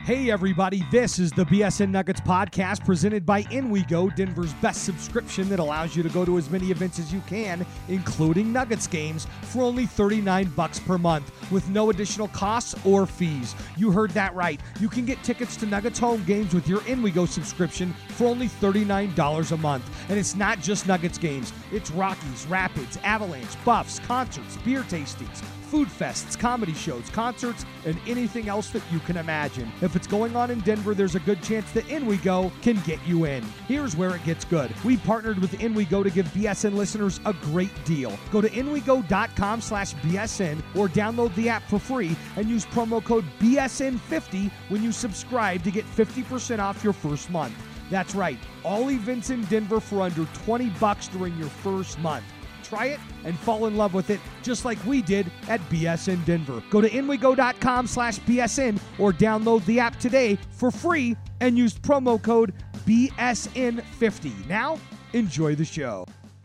Hey everybody, this is the BSN Nuggets podcast presented by InWeGo, Denver's best subscription that allows you to go to as many events as you can, including Nuggets games, for only $39 per month with no additional costs or fees. You heard that right. You can get tickets to Nuggets home games with your InWeGo subscription for only $39 a month. And it's not just Nuggets games. It's Rockies, Rapids, Avalanche, Buffs, concerts, beer tastings, food fests, comedy shows, concerts, and anything else that you can imagine. If it's going on in Denver, there's a good chance that InWeGo can get you in. Here's where it gets good. We partnered with InWeGo to give BSN listeners a great deal. Go to InWeGo.com/BSN or download the app for free and use promo code BSN50 when you subscribe to get 50% off your first month. That's right, all events in Denver for under $20 during your first month. Try it and fall in love with it just like we did at BSN Denver. Go to InWeGo.com/BSN or download the app today for free and use promo code BSN50. Now, enjoy the show.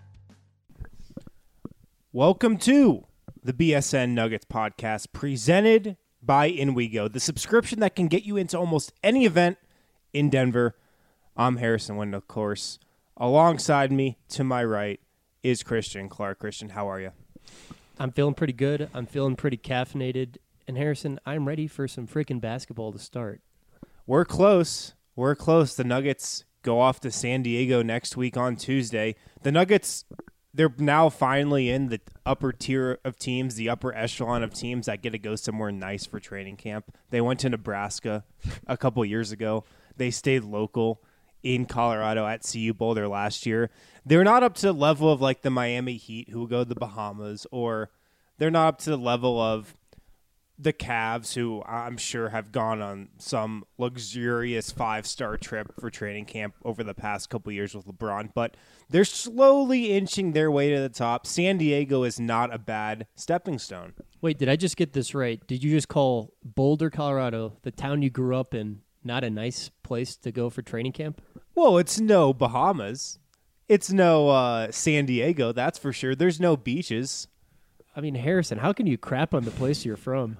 Welcome to the BSN Nuggets podcast presented by InWeGo, the subscription that can get you into almost any event in Denver. I'm Harrison Wind, of course. Alongside me, to my right, is Christian Clark. Christian, how are you? I'm feeling pretty good. I'm feeling pretty caffeinated. And Harrison, I'm ready for some freaking basketball to start. We're close. We're close. The Nuggets go off to San Diego next week on Tuesday. The Nuggets, they're now finally in the upper tier of teams, the upper echelon of teams that get to go somewhere nice for training camp. They went to Nebraska a couple years ago. They stayed local in Colorado at CU Boulder last year. They're not up to the level of like the Miami Heat who will go to the Bahamas, or they're not up to the level of the Cavs who I'm sure have gone on some luxurious 5-star trip for training camp over the past couple years with LeBron, but they're slowly inching their way to the top. San Diego is not a bad stepping stone. Wait, did I just get this right? Did you just call Boulder, Colorado, the town you grew up in, not a nice place to go for training camp? Well, it's no Bahamas. It's no San Diego, that's for sure. There's no beaches. I mean, Harrison, how can you crap on the place you're from?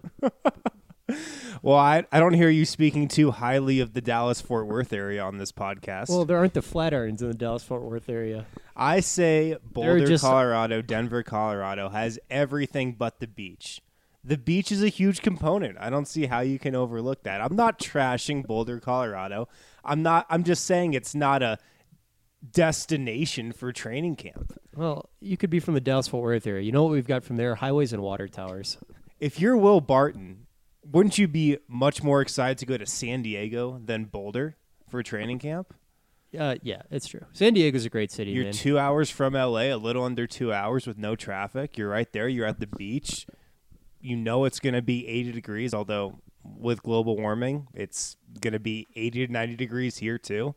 Well, I don't hear you speaking too highly of the Dallas-Fort Worth area on this podcast. Well, there aren't the Flatirons in the Dallas-Fort Worth area. I say Boulder, Colorado, Denver, Colorado has everything but the beach. The beach is a huge component. I don't see how you can overlook that. I'm not trashing Boulder, Colorado. I'm just saying it's not a destination for training camp. Well, you could be from the Dallas-Fort Worth area. You know what we've got from there? Highways and water towers. If you're Will Barton, wouldn't you be much more excited to go to San Diego than Boulder for training camp? Yeah, it's true. San Diego's a great city, You're man. 2 hours from L.A., a little under 2 hours with no traffic. You're right there. You're at the beach. You know it's going to be 80 degrees, although with global warming, it's going to be 80 to 90 degrees here too.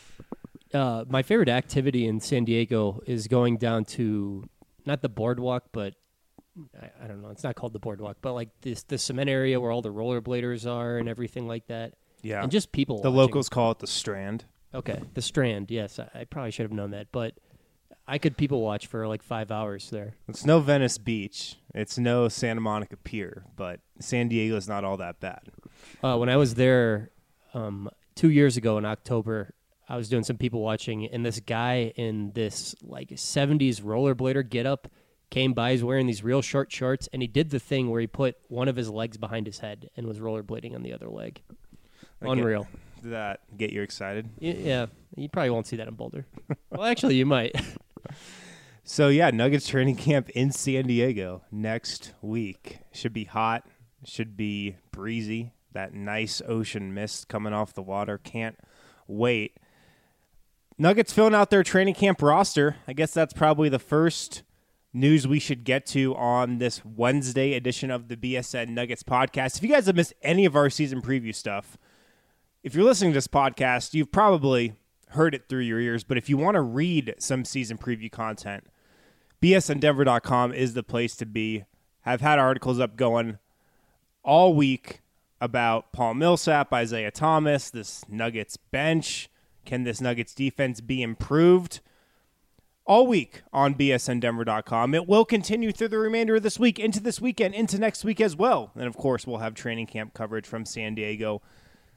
My favorite activity in San Diego is going down to, not the boardwalk, but I don't know. It's not called the boardwalk, but like the cement area where all the rollerbladers are and everything like that. Yeah. And just people The watching. locals call it the Strand. Okay, the Strand, yes. I probably should have known that, but I could people watch for like 5 hours there. It's no Venice Beach. It's no Santa Monica Pier, but San Diego's not all that bad. When I was there 2 years ago in October, I was doing some people watching, and this guy in this like 70s rollerblader getup came by. He's wearing these real short shorts, and he did the thing where he put one of his legs behind his head and was rollerblading on the other leg. Unreal. Did that get you excited? Yeah, you probably won't see that in Boulder. Well, actually, you might. So, yeah, Nuggets training camp in San Diego next week. Should be hot. Should be breezy. That nice ocean mist coming off the water. Can't wait. Nuggets filling out their training camp roster. I guess that's probably the first news we should get to on this Wednesday edition of the BSN Nuggets podcast. If you guys have missed any of our season preview stuff, if you're listening to this podcast, you've probably heard it through your ears. But if you want to read some season preview content, bsndenver.com is the place to be. I've had articles up going all week about Paul Millsap, Isaiah Thomas, this Nuggets bench. Can this Nuggets defense be improved? All week on bsndenver.com. It will continue through the remainder of this week, into this weekend, into next week as well. And, of course, we'll have training camp coverage from San Diego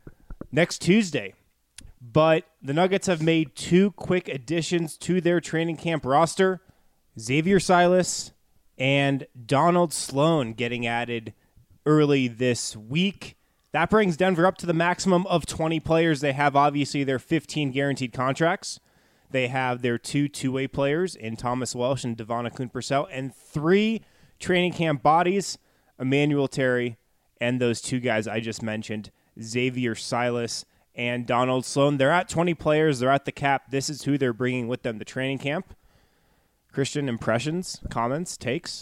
next Tuesday. But the Nuggets have made 2 quick additions to their training camp roster. Xavier Silas and Donald Sloan getting added early this week. That brings Denver up to the maximum of 20 players. They have, obviously, their 15 guaranteed contracts. They have their 2 two-way players in Thomas Welsh and Devon Akoon-Purcell, and 3 training camp bodies, Emmanuel Terry, and those 2 guys I just mentioned, Xavier Silas and Donald Sloan. They're at 20 players. They're at the cap. This is who they're bringing with them to training camp. Christian, impressions, comments, takes?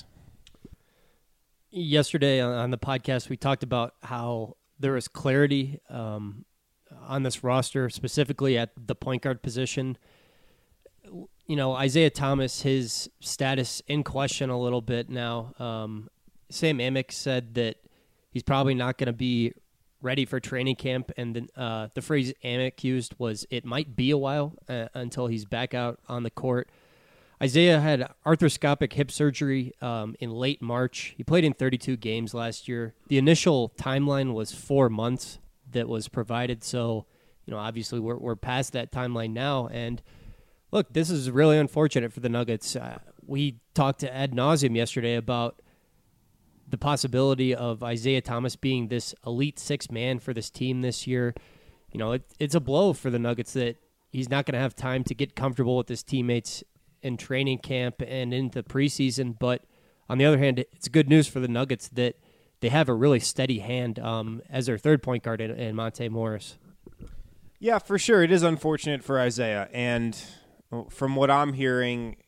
Yesterday on the podcast, we talked about how there is clarity on this roster, specifically at the point guard position. You know, Isaiah Thomas, his status in question a little bit now. Sam Amick said that he's probably not going to be ready for training camp, and the phrase Amick used was, it might be a while until he's back out on the court. Isaiah had arthroscopic hip surgery in late March. He played in 32 games last year. The initial timeline was 4 months that was provided, so obviously we're past that timeline now. And look, this is really unfortunate for the Nuggets. We talked to ad nauseum yesterday about the possibility of Isaiah Thomas being this elite 6 man for this team this year. It's a blow for the Nuggets that he's not going to have time to get comfortable with his teammates in training camp and into preseason. But on the other hand, it's good news for the Nuggets that they have a really steady hand as their third point guard in Monte Morris. Yeah, for sure. It is unfortunate for Isaiah. And from what I'm hearing,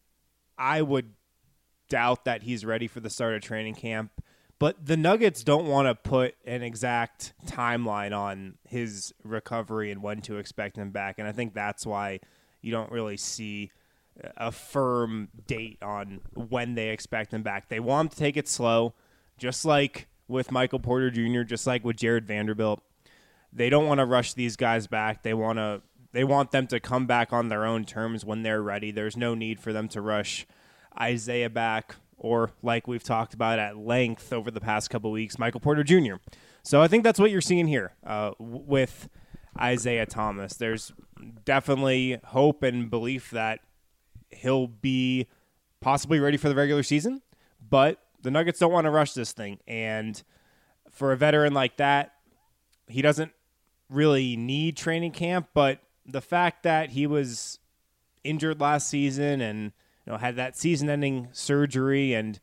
I would doubt that he's ready for the start of training camp. But the Nuggets don't want to put an exact timeline on his recovery and when to expect him back. And I think that's why you don't really see a firm date on when they expect him back. They want him to take it slow, just like with Michael Porter Jr., just like with Jared Vanderbilt. They don't want to rush these guys back. They want them to come back on their own terms when they're ready. There's no need for them to rush Isaiah back, or like we've talked about at length over the past couple weeks, Michael Porter Jr. So I think that's what you're seeing here with Isaiah Thomas. There's definitely hope and belief that he'll be possibly ready for the regular season, but the Nuggets don't want to rush this thing. And for a veteran like that, he doesn't really need training camp, but the fact that he was injured last season and had that season-ending surgery, and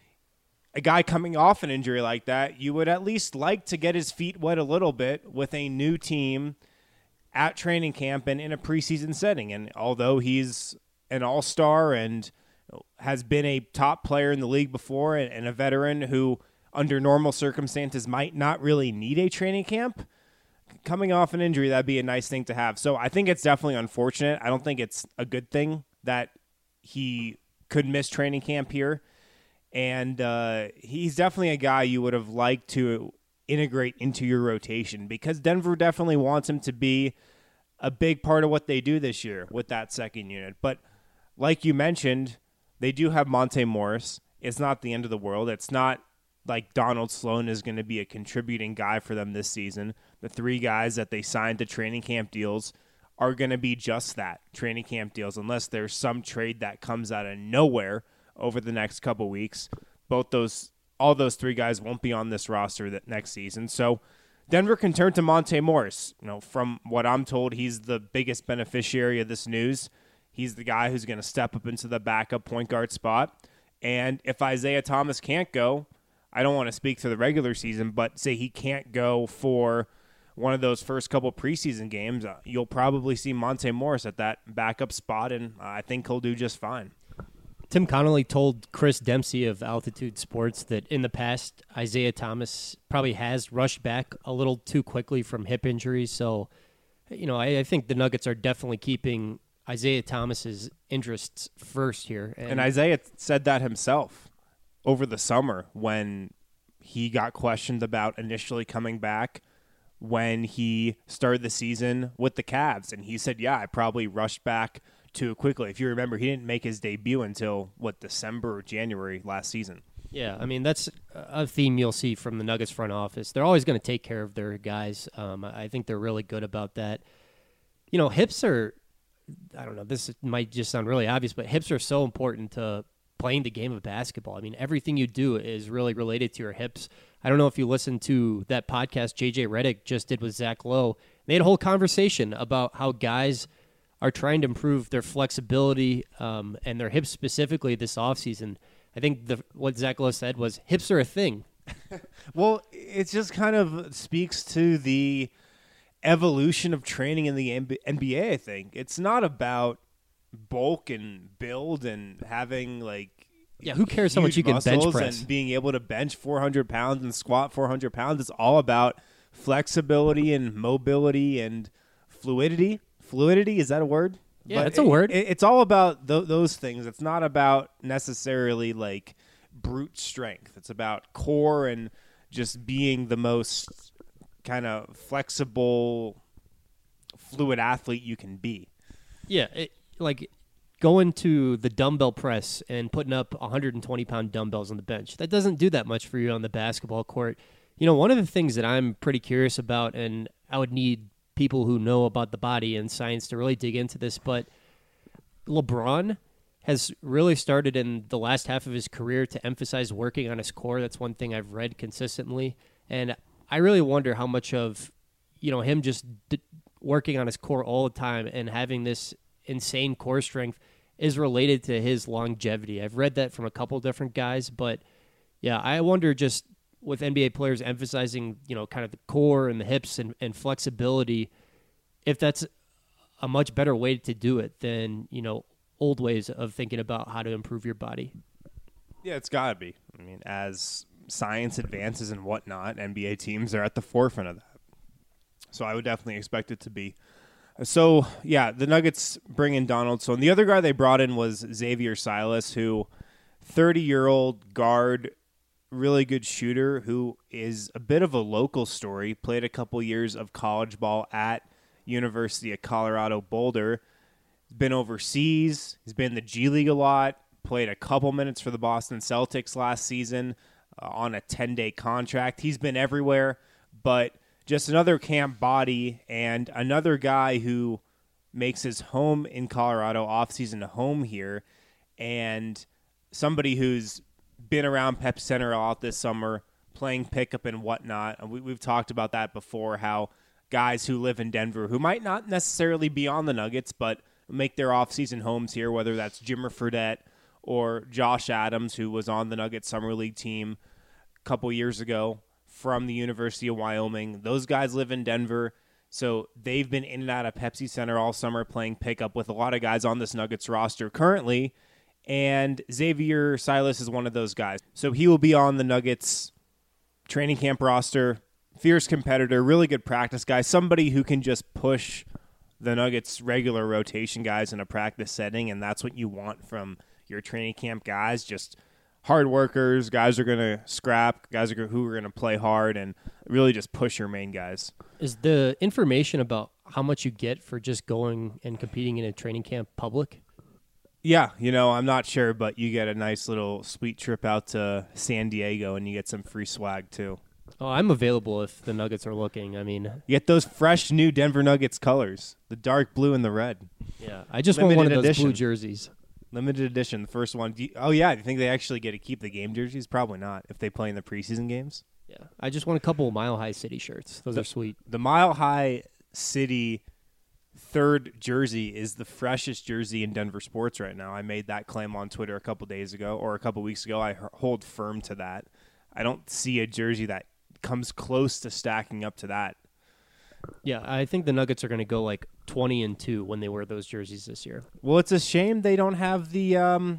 a guy coming off an injury like that, you would at least like to get his feet wet a little bit with a new team at training camp and in a preseason setting. And although he's an all-star and has been a top player in the league before and a veteran who, under normal circumstances, might not really need a training camp, coming off an injury, that'd be a nice thing to have. So I think it's definitely unfortunate. I don't think it's a good thing that he could miss training camp here. And he's definitely a guy you would have liked to integrate into your rotation, because Denver definitely wants him to be a big part of what they do this year with that second unit. But like you mentioned, they do have Monte Morris. It's not the end of the world. It's not like Donald Sloan is going to be a contributing guy for them this season. The 3 guys that they signed to training camp deals are going to be just that, training camp deals, unless there's some trade that comes out of nowhere over the next couple weeks. All those 3 guys won't be on this roster that next season. So Denver can turn to Monte Morris. From what I'm told, he's the biggest beneficiary of this news. He's the guy who's going to step up into the backup point guard spot. And if Isaiah Thomas can't go, I don't want to speak to the regular season, but say he can't go for one of those first couple preseason games, you'll probably see Monte Morris at that backup spot, and I think he'll do just fine. Tim Connolly told Chris Dempsey of Altitude Sports that in the past, Isaiah Thomas probably has rushed back a little too quickly from hip injuries. So, I think the Nuggets are definitely keeping Isaiah Thomas's interests first here. And Isaiah said that himself over the summer when he got questioned about initially coming back when he started the season with the Cavs. And he said, yeah, I probably rushed back too quickly. If you remember, he didn't make his debut until, December or January last season. Yeah, I mean, that's a theme you'll see from the Nuggets front office. They're always going to take care of their guys. I think they're really good about that. You know, hips are, I don't know, this might just sound really obvious, but hips are so important to playing the game of basketball. I mean, everything you do is really related to your hips. I don't know if you listened to that podcast JJ Redick just did with Zach Lowe. They had a whole conversation about how guys are trying to improve their flexibility and their hips specifically this offseason. I think what Zach Lowe said was hips are a thing. Well, it just kind of speaks to the evolution of training in the NBA, I think. It's not about bulk and build and having who cares how much you can bench press and being able to bench 400 pounds and squat 400 pounds. It's all about flexibility and mobility and fluidity. Fluidity, is that a word? Yeah, it's a word. It's all about those things. It's not about necessarily brute strength. It's about core and just being the most kind of flexible, fluid athlete you can be. Yeah, going to the dumbbell press and putting up 120-pound dumbbells on the bench. That doesn't do that much for you on the basketball court. You know, one of the things that I'm pretty curious about, and I would need people who know about the body and science to really dig into this, but LeBron has really started in the last half of his career to emphasize working on his core. That's one thing I've read consistently. And I really wonder how much of, him just working on his core all the time and having this insane core strength is related to his longevity. I've read that from a couple different guys, but yeah, I wonder just with NBA players emphasizing, kind of the core and the hips and flexibility, if that's a much better way to do it than, old ways of thinking about how to improve your body. Yeah, it's got to be. I mean, as science advances and whatnot, NBA teams are at the forefront of that. So I would definitely expect it to be. So, yeah, the Nuggets bring in Donaldson. The other guy they brought in was Xavier Silas, who 30-year-old guard, really good shooter, who is a bit of a local story, played a couple years of college ball at University of Colorado Boulder. He's been overseas. He's been in the G League a lot, played a couple minutes for the Boston Celtics last season on a 10-day contract. He's been everywhere, but just another camp body and another guy who makes his home in Colorado, off-season home here, and somebody who's been around Pep Center a lot this summer, playing pickup and whatnot. And we've talked about that before, how guys who live in Denver, who might not necessarily be on the Nuggets, but make their off-season homes here, whether that's Jimmer Fredette or Josh Adams, who was on the Nuggets Summer League team a couple years ago from the University of Wyoming. Those guys live in Denver, so they've been in and out of Pepsi Center all summer playing pickup with a lot of guys on this Nuggets roster currently, and Xavier Silas is one of those guys. So he will be on the Nuggets training camp roster, fierce competitor, really good practice guy, somebody who can just push the Nuggets regular rotation guys in a practice setting, and that's what you want from your training camp guys, just hard workers, guys are going to scrap, guys who are going to play hard and really just push your main guys. Is the information about how much you get for just going and competing in a training camp public? Yeah, I'm not sure, but you get a nice little sweet trip out to San Diego, and you get some free swag too. Oh, I'm available if the Nuggets are looking. I mean, you get those fresh new Denver Nuggets colors, the dark blue and the red. Yeah, I just want one of those blue jerseys. Limited edition, the first one. Do you think they actually get to keep the game jerseys? Probably not, if they play in the preseason games. Yeah, I just want a couple of Mile High City shirts. Those are sweet. The Mile High City third jersey is the freshest jersey in Denver sports right now. I made that claim on Twitter a couple days ago, or a couple weeks ago. I hold firm to that. I don't see a jersey that comes close to stacking up to that. Yeah, I think the Nuggets are going to go 20-2 when they wear those jerseys this year. Well, it's a shame they don't have the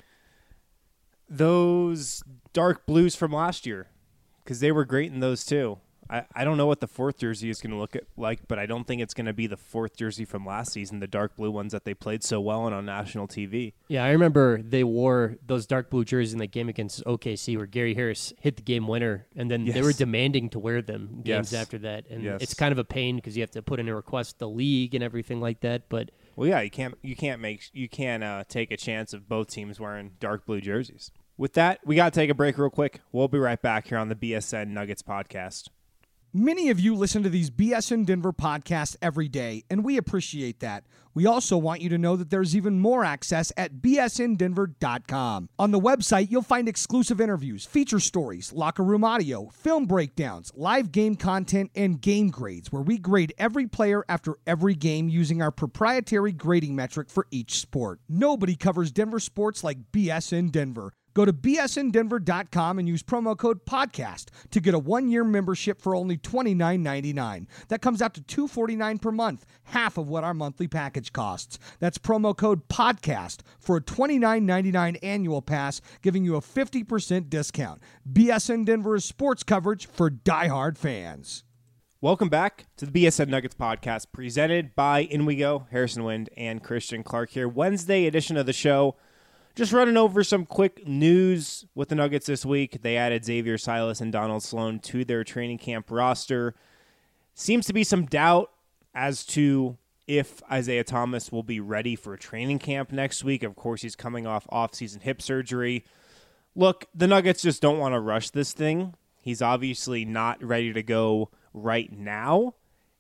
those dark blues from last year, because they were great in those too. I don't know what the fourth jersey is going to look like, but I don't think it's going to be the fourth jersey from last season, the dark blue ones that they played so well on national TV. Yeah, I remember they wore those dark blue jerseys in the game against OKC where Gary Harris hit the game winner, and then they were demanding to wear them games after that. And it's kind of a pain because you have to put in a request to the league and everything like that. But well, yeah, you can't take a chance of both teams wearing dark blue jerseys. With that, we got to take a break real quick. We'll be right back here on the BSN Nuggets podcast. Many of you listen to these BSN Denver podcasts every day, and we appreciate that. We also want you to know that there's even more access at bsndenver.com. On the website, you'll find exclusive interviews, feature stories, locker room audio, film breakdowns, live game content, and game grades, where we grade every player after every game using our proprietary grading metric for each sport. Nobody covers Denver sports like BSN Denver. Go to bsndenver.com and use promo code PODCAST to get a 1-year membership for only $29.99. That comes out to $249 per month, half of what our monthly package costs. That's promo code PODCAST for a $29.99 annual pass, giving you a 50% discount. BSN Denver is sports coverage for diehard fans. Welcome back to the BSN Nuggets podcast, presented by In We Go, Harrison Wind, and Christian Clark here. Wednesday edition of the show. Just running over some quick news with the Nuggets this week. They added Xavier Silas and Donald Sloan to their training camp roster. Seems to be some doubt as to if Isaiah Thomas will be ready for training camp next week. Of course, he's coming off off-season hip surgery. Look, the Nuggets just don't want to rush this thing. He's obviously not ready to go right now,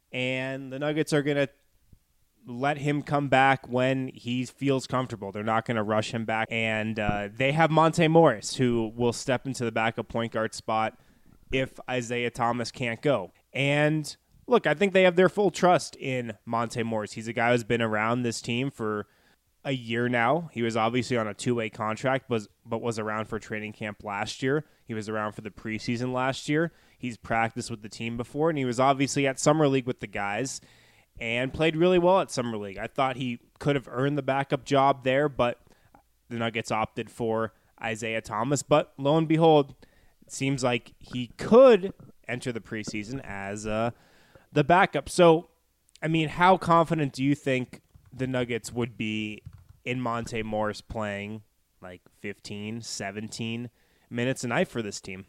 and the Nuggets are going to let him come back when he feels comfortable. They're not going to rush him back. And they have Monte Morris, who will step into the backup point guard spot if Isaiah Thomas can't go. And look, I think they have their full trust in Monte Morris. He's a guy who's been around this team for a year now. He was obviously on a 2-way contract, but was around for training camp last year. He was around for the preseason last year. He's practiced with the team before, and he was obviously at Summer League with the guys and played really well at Summer League. I thought he could have earned the backup job there, but the Nuggets opted for Isaiah Thomas. But lo and behold, it seems like he could enter the preseason as the backup. So, I mean, how confident do you think the Nuggets would be in Monte Morris playing like 15, 17 minutes a night for this team?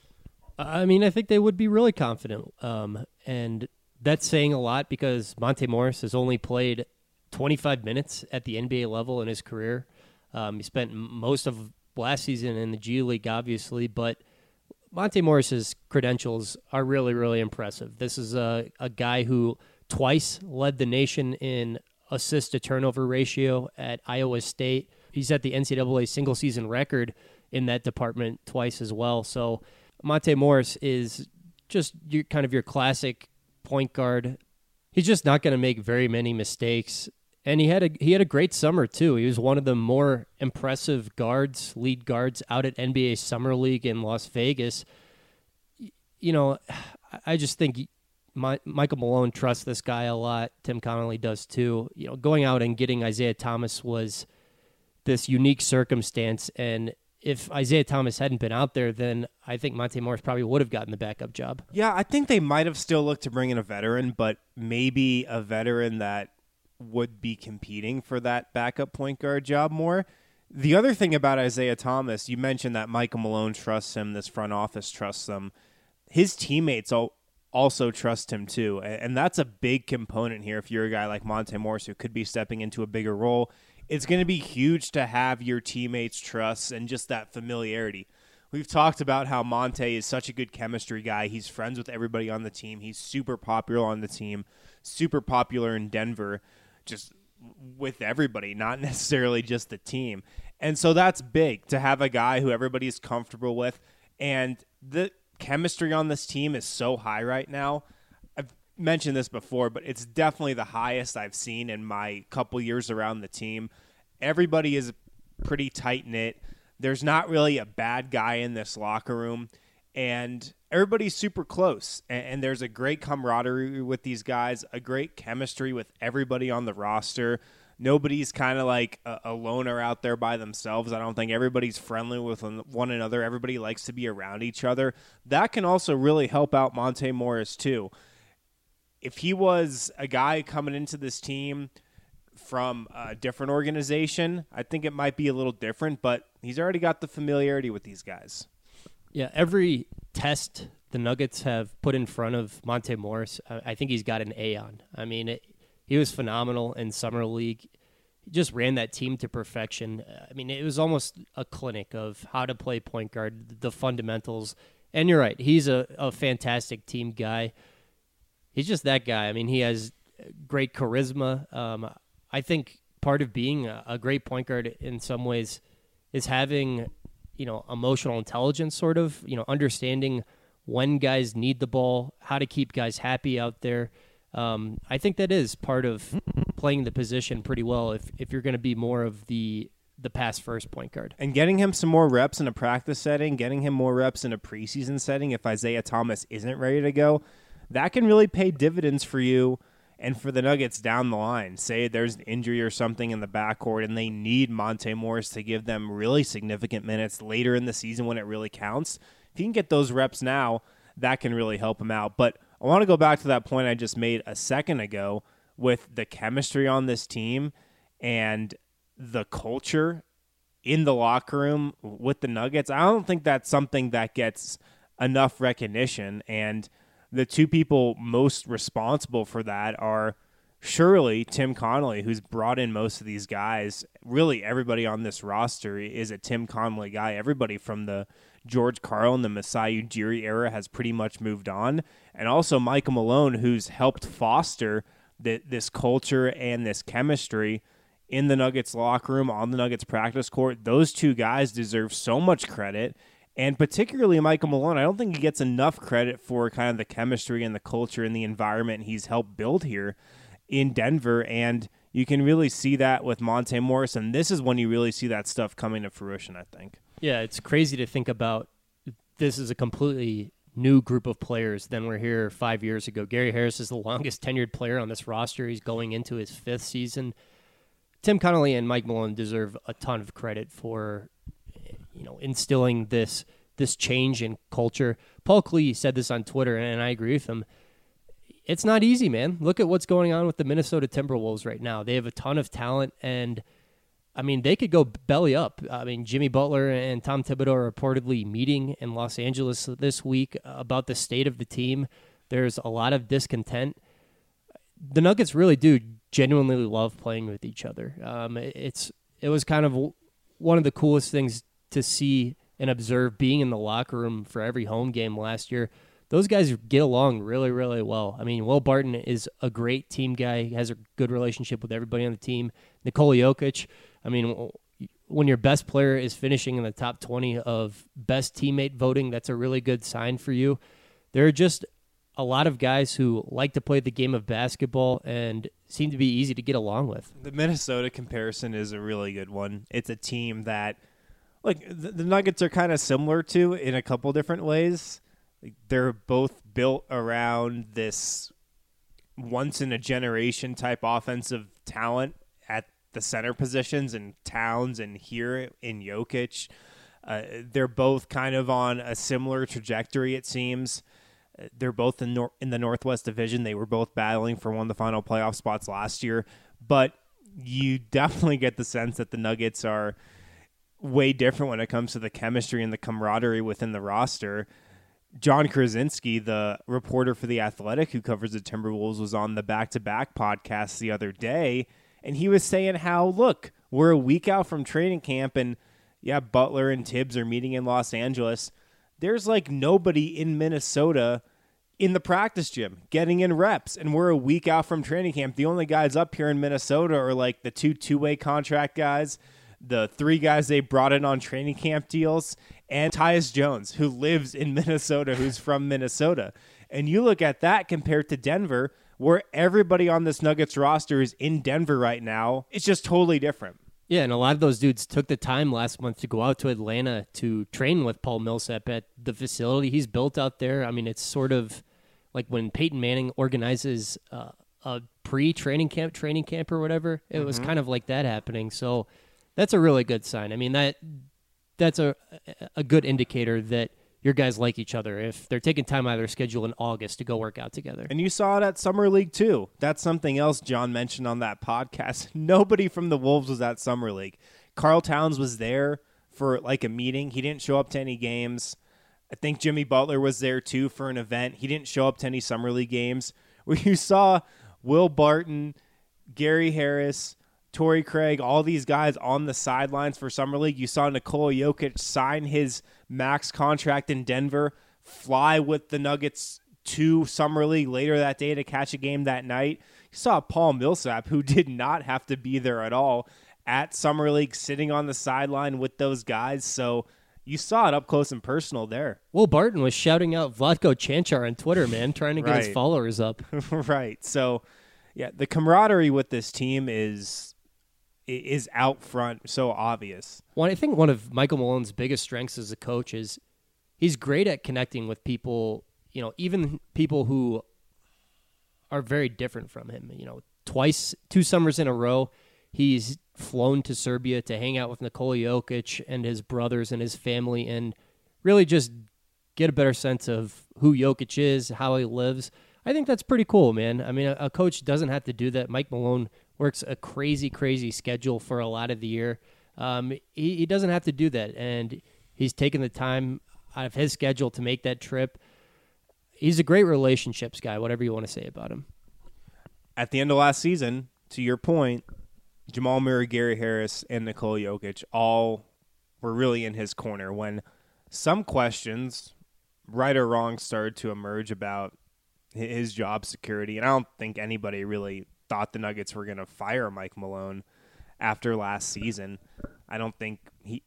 I mean, I think they would be really confident. And that's saying a lot because Monte Morris has only played 25 minutes at the NBA level in his career. He spent most of last season in the G League, obviously, but Monte Morris's credentials are really, really impressive. This is a guy who twice led the nation in assist-to-turnover ratio at Iowa State. He's at the NCAA single-season record in that department twice as well. So Monte Morris is just your classic point guard. He's just not going to make very many mistakes. And he had a great summer too. He was one of the more impressive lead guards out at NBA Summer League in Las Vegas. You know, I just think Michael Malone trusts this guy a lot. Tim Connolly does too. You know, going out and getting Isaiah Thomas was this unique circumstance, and if Isaiah Thomas hadn't been out there, then I think Monte Morris probably would have gotten the backup job. Yeah, I think they might have still looked to bring in a veteran, but maybe a veteran that would be competing for that backup point guard job more. The other thing about Isaiah Thomas, you mentioned that Michael Malone trusts him, this front office trusts him. His teammates also trust him too, and that's a big component here if you're a guy like Monte Morris who could be stepping into a bigger role. It's going to be huge to have your teammates' trust and just that familiarity. We've talked about how Monte is such a good chemistry guy. He's friends with everybody on the team. He's super popular on the team, super popular in Denver, just with everybody, not necessarily just the team. And so that's big to have a guy who everybody's comfortable with. And the chemistry on this team is so high right now. I've mentioned this before, but it's definitely the highest I've seen in my couple years around the team. Everybody is pretty tight-knit. There's not really a bad guy in this locker room, and everybody's super close. And there's a great camaraderie with these guys, a great chemistry with everybody on the roster. Nobody's kind of like a loner out there by themselves. I don't think everybody's friendly with one another. Everybody likes to be around each other. That can also really help out Monte Morris too. If he was a guy coming into this team from a different organization, I think it might be a little different, but he's already got the familiarity with these guys. Yeah, every test the Nuggets have put in front of Monte Morris, I think he's got an A on. I mean, he was phenomenal in Summer League. just ran that team to perfection. I mean, it was almost a clinic of how to play point guard, the fundamentals. And you're right, he's a fantastic team guy. He's just that guy. I mean, he has great charisma. I think part of being a great point guard in some ways is having, emotional intelligence, sort of, understanding when guys need the ball, how to keep guys happy out there. I think that is part of playing the position pretty well if you're going to be more of the pass first point guard. And getting him some more reps in a practice setting, getting him more reps in a preseason setting if Isaiah Thomas isn't ready to go, that can really pay dividends for you and for the Nuggets down the line. Say there's an injury or something in the backcourt and they need Monte Morris to give them really significant minutes later in the season when it really counts. If you can get those reps now, that can really help him out. But I want to go back to that point I just made a second ago with the chemistry on this team and the culture in the locker room with the Nuggets. I don't think that's something that gets enough recognition, and the two people most responsible for that are surely Tim Connolly, who's brought in most of these guys. Really, everybody on this roster is a Tim Connolly guy. Everybody from the George Karl and the Masai Ujiri era has pretty much moved on. And also Michael Malone, who's helped foster this culture and this chemistry in the Nuggets locker room, on the Nuggets practice court. Those two guys deserve so much credit. And particularly Michael Malone, I don't think he gets enough credit for kind of the chemistry and the culture and the environment he's helped build here in Denver. And you can really see that with Monte Morris. And this is when you really see that stuff coming to fruition, I think. Yeah, it's crazy to think about this is a completely new group of players than were here 5 years ago. Gary Harris is the longest tenured player on this roster. He's going into his 5th season. Tim Connolly and Mike Malone deserve a ton of credit for instilling this change in culture. Paul Klee said this on Twitter, and I agree with him. It's not easy, man. Look at what's going on with the Minnesota Timberwolves right now. They have a ton of talent, and I mean, they could go belly up. I mean, Jimmy Butler and Tom Thibodeau are reportedly meeting in Los Angeles this week about the state of the team. There's a lot of discontent. The Nuggets really do genuinely love playing with each other. It was kind of one of the coolest things to see and observe being in the locker room for every home game last year. Those guys get along really, really well. I mean, Will Barton is a great team guy. He has a good relationship with everybody on the team. Nikola Jokic, I mean, when your best player is finishing in the top 20 of best teammate voting, that's a really good sign for you. There are just a lot of guys who like to play the game of basketball and seem to be easy to get along with. The Minnesota comparison is a really good one. It's a team that, like, the Nuggets are kind of similar to in a couple different ways. Like, they're both built around this once-in-a-generation type offensive talent at the center positions, and Towns and here in Jokic. They're both kind of on a similar trajectory, it seems. They're both in the Northwest Division. They were both battling for one of the final playoff spots last year. But you definitely get the sense that the Nuggets are way different when it comes to the chemistry and the camaraderie within the roster. John Krasinski, the reporter for The Athletic who covers the Timberwolves, was on the Back-to-Back podcast the other day, and he was saying how, look, we're a week out from training camp, and yeah, Butler and Tibbs are meeting in Los Angeles. There's like nobody in Minnesota in the practice gym getting in reps, and we're a week out from training camp. The only guys up here in Minnesota are like the two-way contract guys, the 3 guys they brought in on training camp deals, and Tyus Jones, who lives in Minnesota, who's from Minnesota. And you look at that compared to Denver, where everybody on this Nuggets roster is in Denver right now. It's just totally different. Yeah, and a lot of those dudes took the time last month to go out to Atlanta to train with Paul Millsap at the facility he's built out there. I mean, it's sort of like when Peyton Manning organizes a pre-training camp or whatever. It was kind of like that happening. So that's a really good sign. I mean, that's a good indicator that your guys like each other if they're taking time out of their schedule in August to go work out together. And you saw it at Summer League, too. That's something else John mentioned on that podcast. Nobody from the Wolves was at Summer League. Karl Towns was there for, like, a meeting. He didn't show up to any games. I think Jimmy Butler was there, too, for an event. He didn't show up to any Summer League games. Where you saw Will Barton, Gary Harris, Torrey Craig, all these guys on the sidelines for Summer League. You saw Nikola Jokic sign his max contract in Denver, fly with the Nuggets to Summer League later that day to catch a game that night. You saw Paul Millsap, who did not have to be there at all, at Summer League sitting on the sideline with those guys. So you saw it up close and personal there. Will Barton was shouting out Vlatko Čančar on Twitter, man, trying to get his followers up. Right. So, yeah, the camaraderie with this team is out front, so obvious. Well, I think one of Michael Malone's biggest strengths as a coach is he's great at connecting with people, even people who are very different from him. 2 summers in a row, he's flown to Serbia to hang out with Nikola Jokic and his brothers and his family and really just get a better sense of who Jokic is, how he lives. I think that's pretty cool, man. I mean, a coach doesn't have to do that. Mike Malone works a crazy, crazy schedule for a lot of the year. He doesn't have to do that, and he's taken the time out of his schedule to make that trip. He's a great relationships guy, whatever you want to say about him. At the end of last season, to your point, Jamal Murray, Gary Harris, and Nikola Jokic all were really in his corner when some questions, right or wrong, started to emerge about his job security. And I don't think anybody really thought the Nuggets were going to fire Mike Malone after last season. I don't think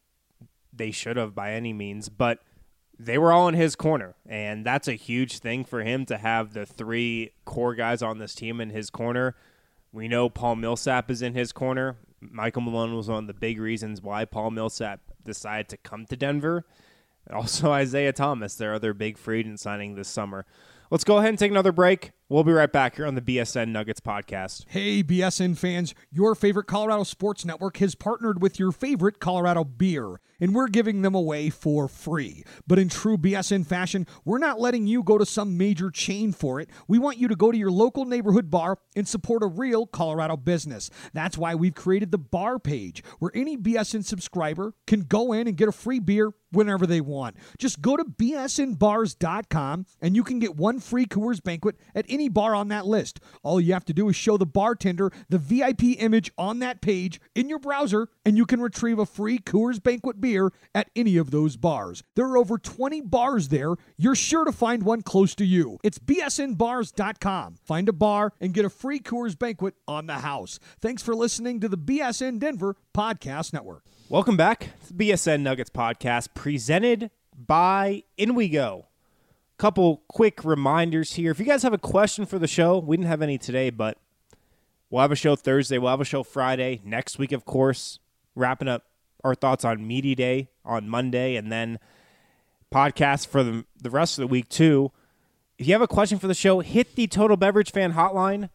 they should have by any means, but they were all in his corner, and that's a huge thing for him to have the 3 core guys on this team in his corner. We know Paul Millsap is in his corner. Michael Malone was one of the big reasons why Paul Millsap decided to come to Denver. And also Isaiah Thomas, their other big free agent signing this summer. Let's go ahead and take another break. We'll be right back here on the BSN Nuggets podcast. Hey, BSN fans, your favorite Colorado Sports Network has partnered with your favorite Colorado beer, and we're giving them away for free. But in true BSN fashion, we're not letting you go to some major chain for it. We want you to go to your local neighborhood bar and support a real Colorado business. That's why we've created the bar page, where any BSN subscriber can go in and get a free beer whenever they want. Just go to bsnbars.com and you can get 1 free Coors Banquet at any bar on that list. All you have to do is show the bartender the VIP image on that page in your browser, and you can retrieve a free Coors Banquet beer at any of those bars. There are over 20 bars there. You're sure to find one close to you. It's bsnbars.com. Find a bar and get a free Coors Banquet on the house. Thanks for listening to the BSN Denver Podcast Network. Welcome back to the BSN Nuggets podcast, presented by In We Go. Couple quick reminders here. If you guys have a question for the show, we didn't have any today, but we'll have a show Thursday. We'll have a show Friday. Next week, of course, wrapping up our thoughts on Media Day on Monday, and then podcast for the rest of the week, too. If you have a question for the show, hit the Total Beverage Fan Hotline,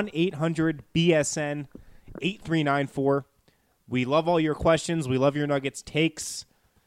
1-800-BSN-8394. We love all your questions. We love your Nuggets takes.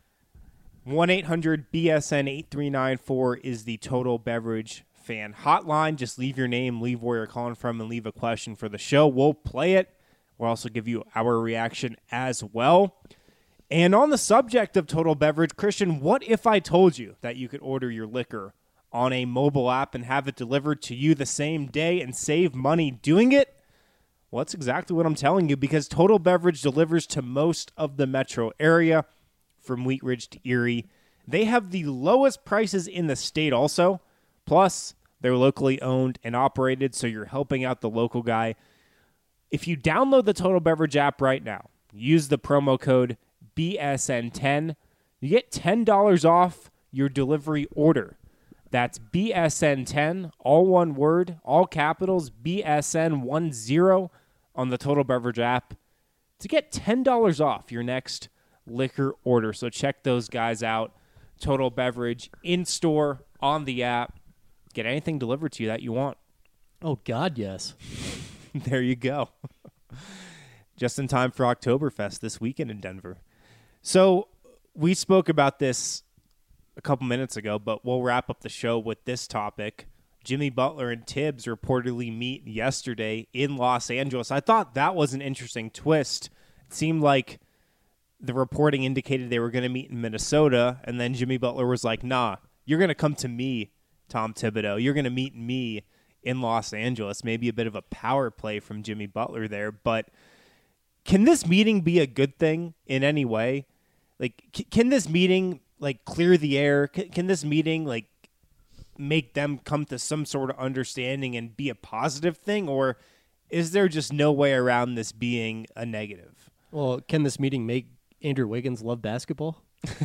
1-800-BSN-8394 is the Total Beverage Fan Hotline. Just leave your name, leave where you're calling from, and leave a question for the show. We'll play it. We'll also give you our reaction as well. And on the subject of Total Beverage, Christian, what if I told you that you could order your liquor on a mobile app and have it delivered to you the same day and save money doing it? Well, that's exactly what I'm telling you, because Total Beverage delivers to most of the metro area from Wheat Ridge to Erie. They have the lowest prices in the state also. Plus, they're locally owned and operated, so you're helping out the local guy. If you download the Total Beverage app right now, use the promo code BSN10, you get $10 off your delivery order. That's BSN10, all one word, all capitals, BSN10 on the Total Beverage app to get $10 off your next liquor order. So check those guys out. Total Beverage in-store, on the app. Get anything delivered to you that you want. Oh, God, yes. There you go. Just in time for Oktoberfest this weekend in Denver. So we spoke about this a couple minutes ago, but we'll wrap up the show with this topic. Jimmy Butler and Tibbs reportedly meet yesterday in Los Angeles. I thought that was an interesting twist. It seemed like the reporting indicated they were going to meet in Minnesota, and then Jimmy Butler was like, nah, you're going to come to me, Tom Thibodeau. You're going to meet me in Los Angeles. Maybe a bit of a power play from Jimmy Butler there, but can this meeting be a good thing in any way? Like, can this meeting like clear the air? Can this meeting like make them come to some sort of understanding and be a positive thing, or is there just no way around this being a negative? Well, can this meeting make Andrew Wiggins love basketball?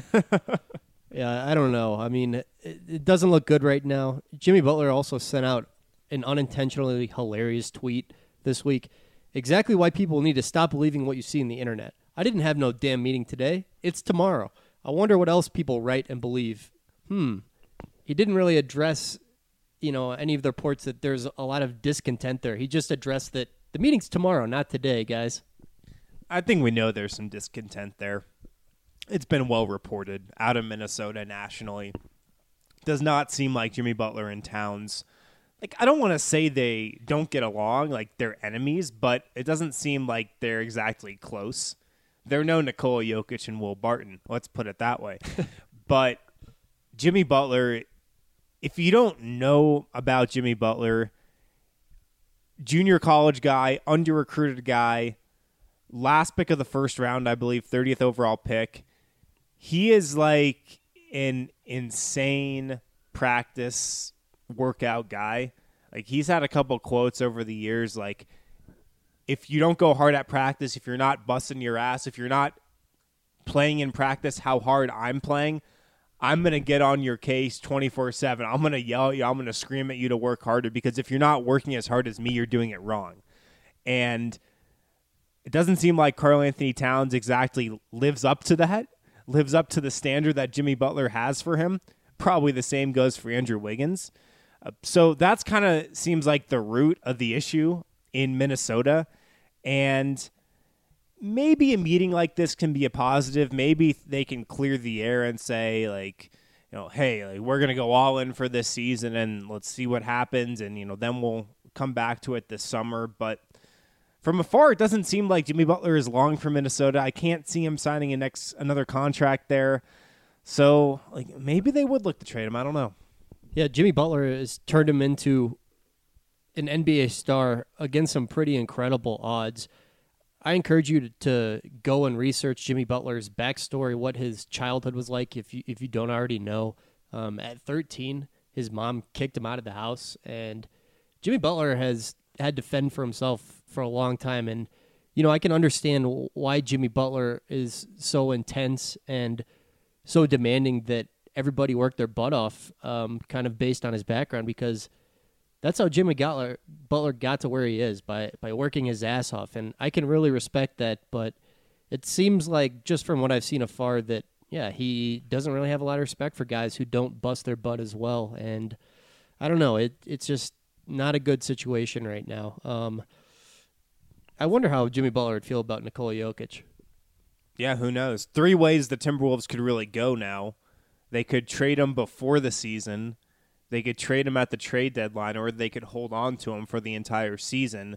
Yeah, I don't know. I mean, it doesn't look good right now. Jimmy Butler also sent out an unintentionally hilarious tweet this week. Exactly why people need to stop believing what you see in the internet. I didn't have no damn meeting today. It's tomorrow. I wonder what else people write and believe. He didn't really address, any of the reports that there's a lot of discontent there. He just addressed that the meeting's tomorrow, not today, guys. I think we know there's some discontent there. It's been well reported out of Minnesota nationally. Does not seem like Jimmy Butler and Towns, like, I don't want to say they don't get along, like they're enemies, but it doesn't seem like they're exactly close. They're no Nikola Jokic and Will Barton. Let's put it that way. But Jimmy Butler, if you don't know about Jimmy Butler, junior college guy, under-recruited guy, last pick of the first round, I believe, 30th overall pick. He is like an insane practice workout guy. Like, he's had a couple quotes over the years, like, if you don't go hard at practice, if you're not busting your ass, if you're not playing in practice how hard I'm playing, I'm going to get on your case 24/7. I'm going to yell at you. I'm going to scream at you to work harder, because if you're not working as hard as me, you're doing it wrong. And it doesn't seem like Karl-Anthony Towns exactly lives up to that, lives up to the standard that Jimmy Butler has for him. Probably the same goes for Andrew Wiggins. So that's kind of seems like the root of the issue in Minnesota. And maybe a meeting like this can be a positive. Maybe they can clear the air and say, like, hey, like, we're going to go all in for this season and let's see what happens. And, then we'll come back to it this summer. But from afar, it doesn't seem like Jimmy Butler is long for Minnesota. I can't see him signing another contract there. So, like, maybe they would look to trade him. I don't know. Yeah, Jimmy Butler has turned him into an NBA star against some pretty incredible odds. I encourage you to go and research Jimmy Butler's backstory, what his childhood was like, if you don't already know. At 13, his mom kicked him out of the house, and Jimmy Butler has had to fend for himself for a long time. And, I can understand why Jimmy Butler is so intense and so demanding that everybody work their butt off, kind of based on his background, because that's how Jimmy Butler got to where he is, by working his ass off. And I can really respect that, but it seems like, just from what I've seen afar, that, yeah, he doesn't really have a lot of respect for guys who don't bust their butt as well. And I don't know, it's just not a good situation right now. I wonder how Jimmy Butler would feel about Nikola Jokic. Yeah, who knows? 3 ways the Timberwolves could really go now. They could trade him before the season. They could trade him at the trade deadline, or they could hold on to him for the entire season.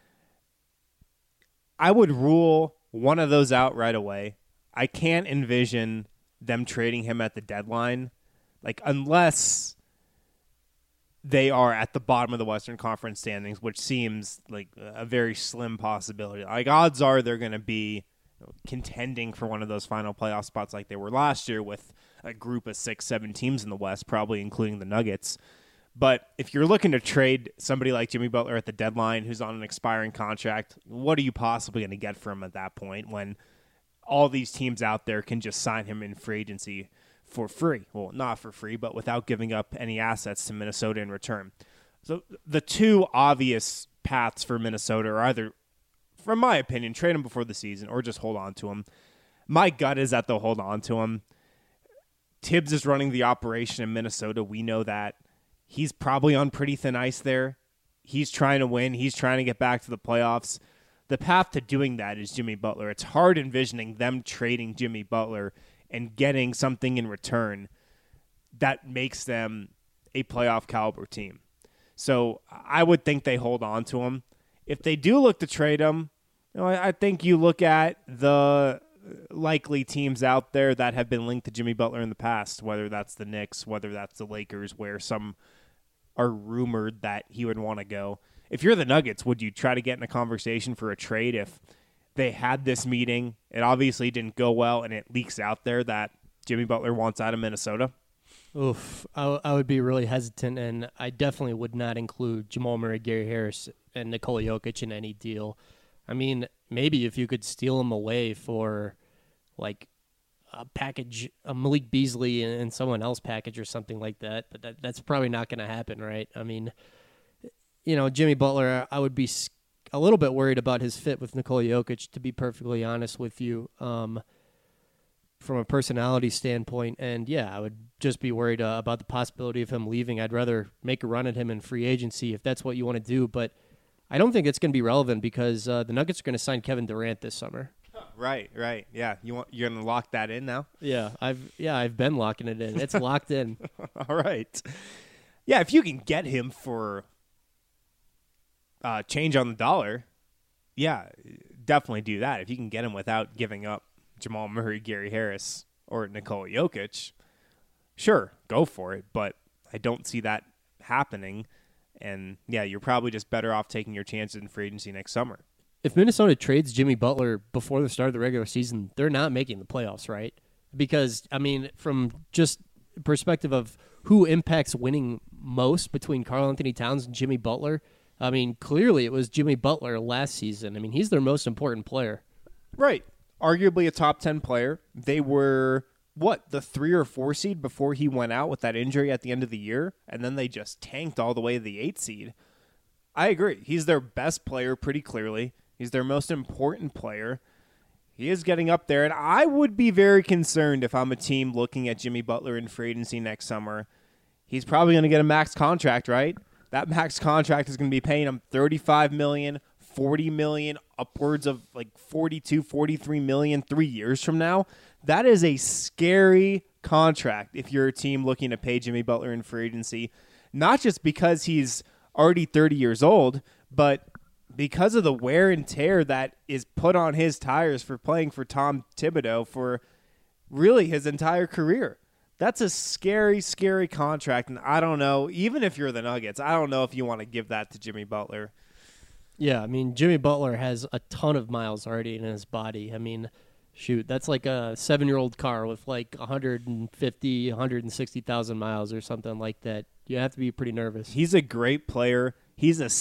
I would rule one of those out right away. I can't envision them trading him at the deadline, like, unless they are at the bottom of the Western Conference standings, which seems like a very slim possibility. Like, odds are they're going to be contending for one of those final playoff spots like they were last year, with a group of 6-7 teams in the West, probably including the Nuggets. But if you're looking to trade somebody like Jimmy Butler at the deadline, who's on an expiring contract, what are you possibly going to get from him at that point, when all these teams out there can just sign him in free agency for free? Well, not for free, but without giving up any assets to Minnesota in return. So the two obvious paths for Minnesota are either, from my opinion, trade him before the season or just hold on to him. My gut is that they'll hold on to him. Tibbs is running the operation in Minnesota. We know that. He's probably on pretty thin ice there. He's trying to win. He's trying to get back to the playoffs. The path to doing that is Jimmy Butler. It's hard envisioning them trading Jimmy Butler and getting something in return that makes them a playoff caliber team. So I would think they hold on to him. If they do look to trade him, I think you look at the likely teams out there that have been linked to Jimmy Butler in the past, whether that's the Knicks, whether that's the Lakers, where some are rumored that he would want to go. If you're the Nuggets, would you try to get in a conversation for a trade if they had this meeting. It obviously didn't go well, and it leaks out there that Jimmy Butler wants out of Minnesota? Oof, I would be really hesitant, and I definitely would not include Jamal Murray, Gary Harris, and Nikola Jokic in any deal. I mean, maybe if you could steal them away for like a package, a Malik Beasley and someone else package or something like that, but that's probably not going to happen, right? I mean, Jimmy Butler, I would be a little bit worried about his fit with Nikola Jokic, to be perfectly honest with you, from a personality standpoint. And yeah, I would just be worried about the possibility of him leaving. I'd rather make a run at him in free agency if that's what you want to do, but I don't think it's going to be relevant because the Nuggets are going to sign Kevin Durant this summer. Right. Yeah, you're going to lock that in now? Yeah, I've been locking it in. It's locked in. All right. Yeah, if you can get him for change on the dollar, yeah, definitely do that. If you can get him without giving up Jamal Murray, Gary Harris, or Nikola Jokic, sure, go for it. But I don't see that happening. And, yeah, you're probably just better off taking your chances in free agency next summer. If Minnesota trades Jimmy Butler before the start of the regular season, they're not making the playoffs, right? Because, I mean, from just perspective of who impacts winning most between Karl Anthony Towns and Jimmy Butler, I mean, clearly it was Jimmy Butler last season. I mean, he's their most important player. Right. Arguably a top 10 player. They were, the 3 or 4 seed before he went out with that injury at the end of the year, and then they just tanked all the way to the 8 seed. I agree. He's their best player pretty clearly. He's their most important player. He is getting up there, and I would be very concerned if I'm a team looking at Jimmy Butler in free agency next summer. He's probably going to get a max contract, right? That max contract is going to be paying him $35 million, $40 million, upwards of like $42, $43 million 3 years from now. That is a scary contract if you're a team looking to pay Jimmy Butler in free agency, not just because he's already 30 years old, but because of the wear and tear that is put on his tires for playing for Tom Thibodeau for really his entire career. That's a scary, scary contract, and I don't know, even if you're the Nuggets, I don't know if you want to give that to Jimmy Butler. Yeah, I mean, Jimmy Butler has a ton of miles already in his body. I mean, shoot, that's like a 7-year-old car with like 150, 160,000 miles or something like that. You have to be pretty nervous. He's a great player. He's a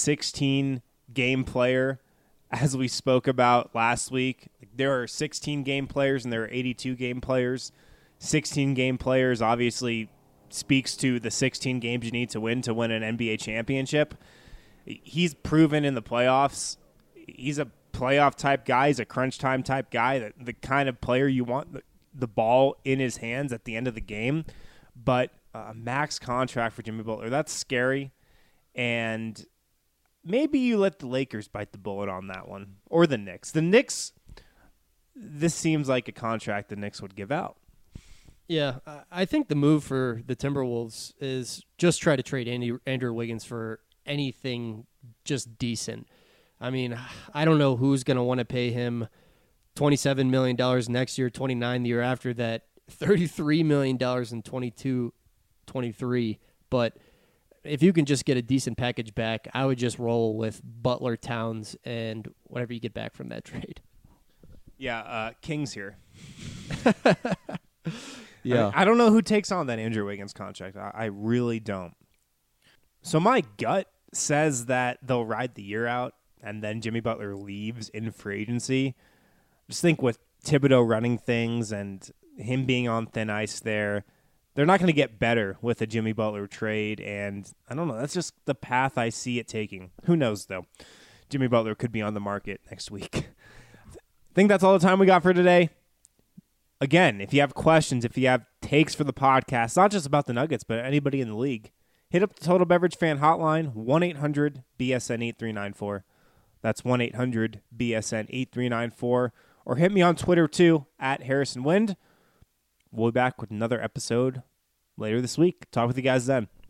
16-game player, as we spoke about last week. There are 16-game players and there are 82-game players. 16-game players obviously speaks to the 16 games you need to win an NBA championship. He's proven in the playoffs. He's a playoff-type guy. He's a crunch-time type guy, the kind of player you want the ball in his hands at the end of the game. But a max contract for Jimmy Butler, that's scary. And maybe you let the Lakers bite the bullet on that one, or the Knicks. The Knicks, this seems like a contract the Knicks would give out. Yeah, I think the move for the Timberwolves is just try to trade Andrew Wiggins for anything just decent. I mean, I don't know who's going to want to pay him $27 million next year, $29 the year after that, $33 million in 22-23. But if you can just get a decent package back, I would just roll with Butler, Towns, and whatever you get back from that trade. Yeah, Kings here. Yeah, I don't know who takes on that Andrew Wiggins contract. I really don't. So my gut says that they'll ride the year out, and then Jimmy Butler leaves in free agency. Just think with Thibodeau running things and him being on thin ice there, they're not going to get better with a Jimmy Butler trade, and I don't know. That's just the path I see it taking. Who knows, though? Jimmy Butler could be on the market next week. I think that's all the time we got for today. Again, if you have questions, if you have takes for the podcast, not just about the Nuggets, but anybody in the league, hit up the Total Beverage Fan Hotline, 1-800-BSN-8394. That's 1-800-BSN-8394. Or hit me on Twitter, too, at Harrison Wind. We'll be back with another episode later this week. Talk with you guys then.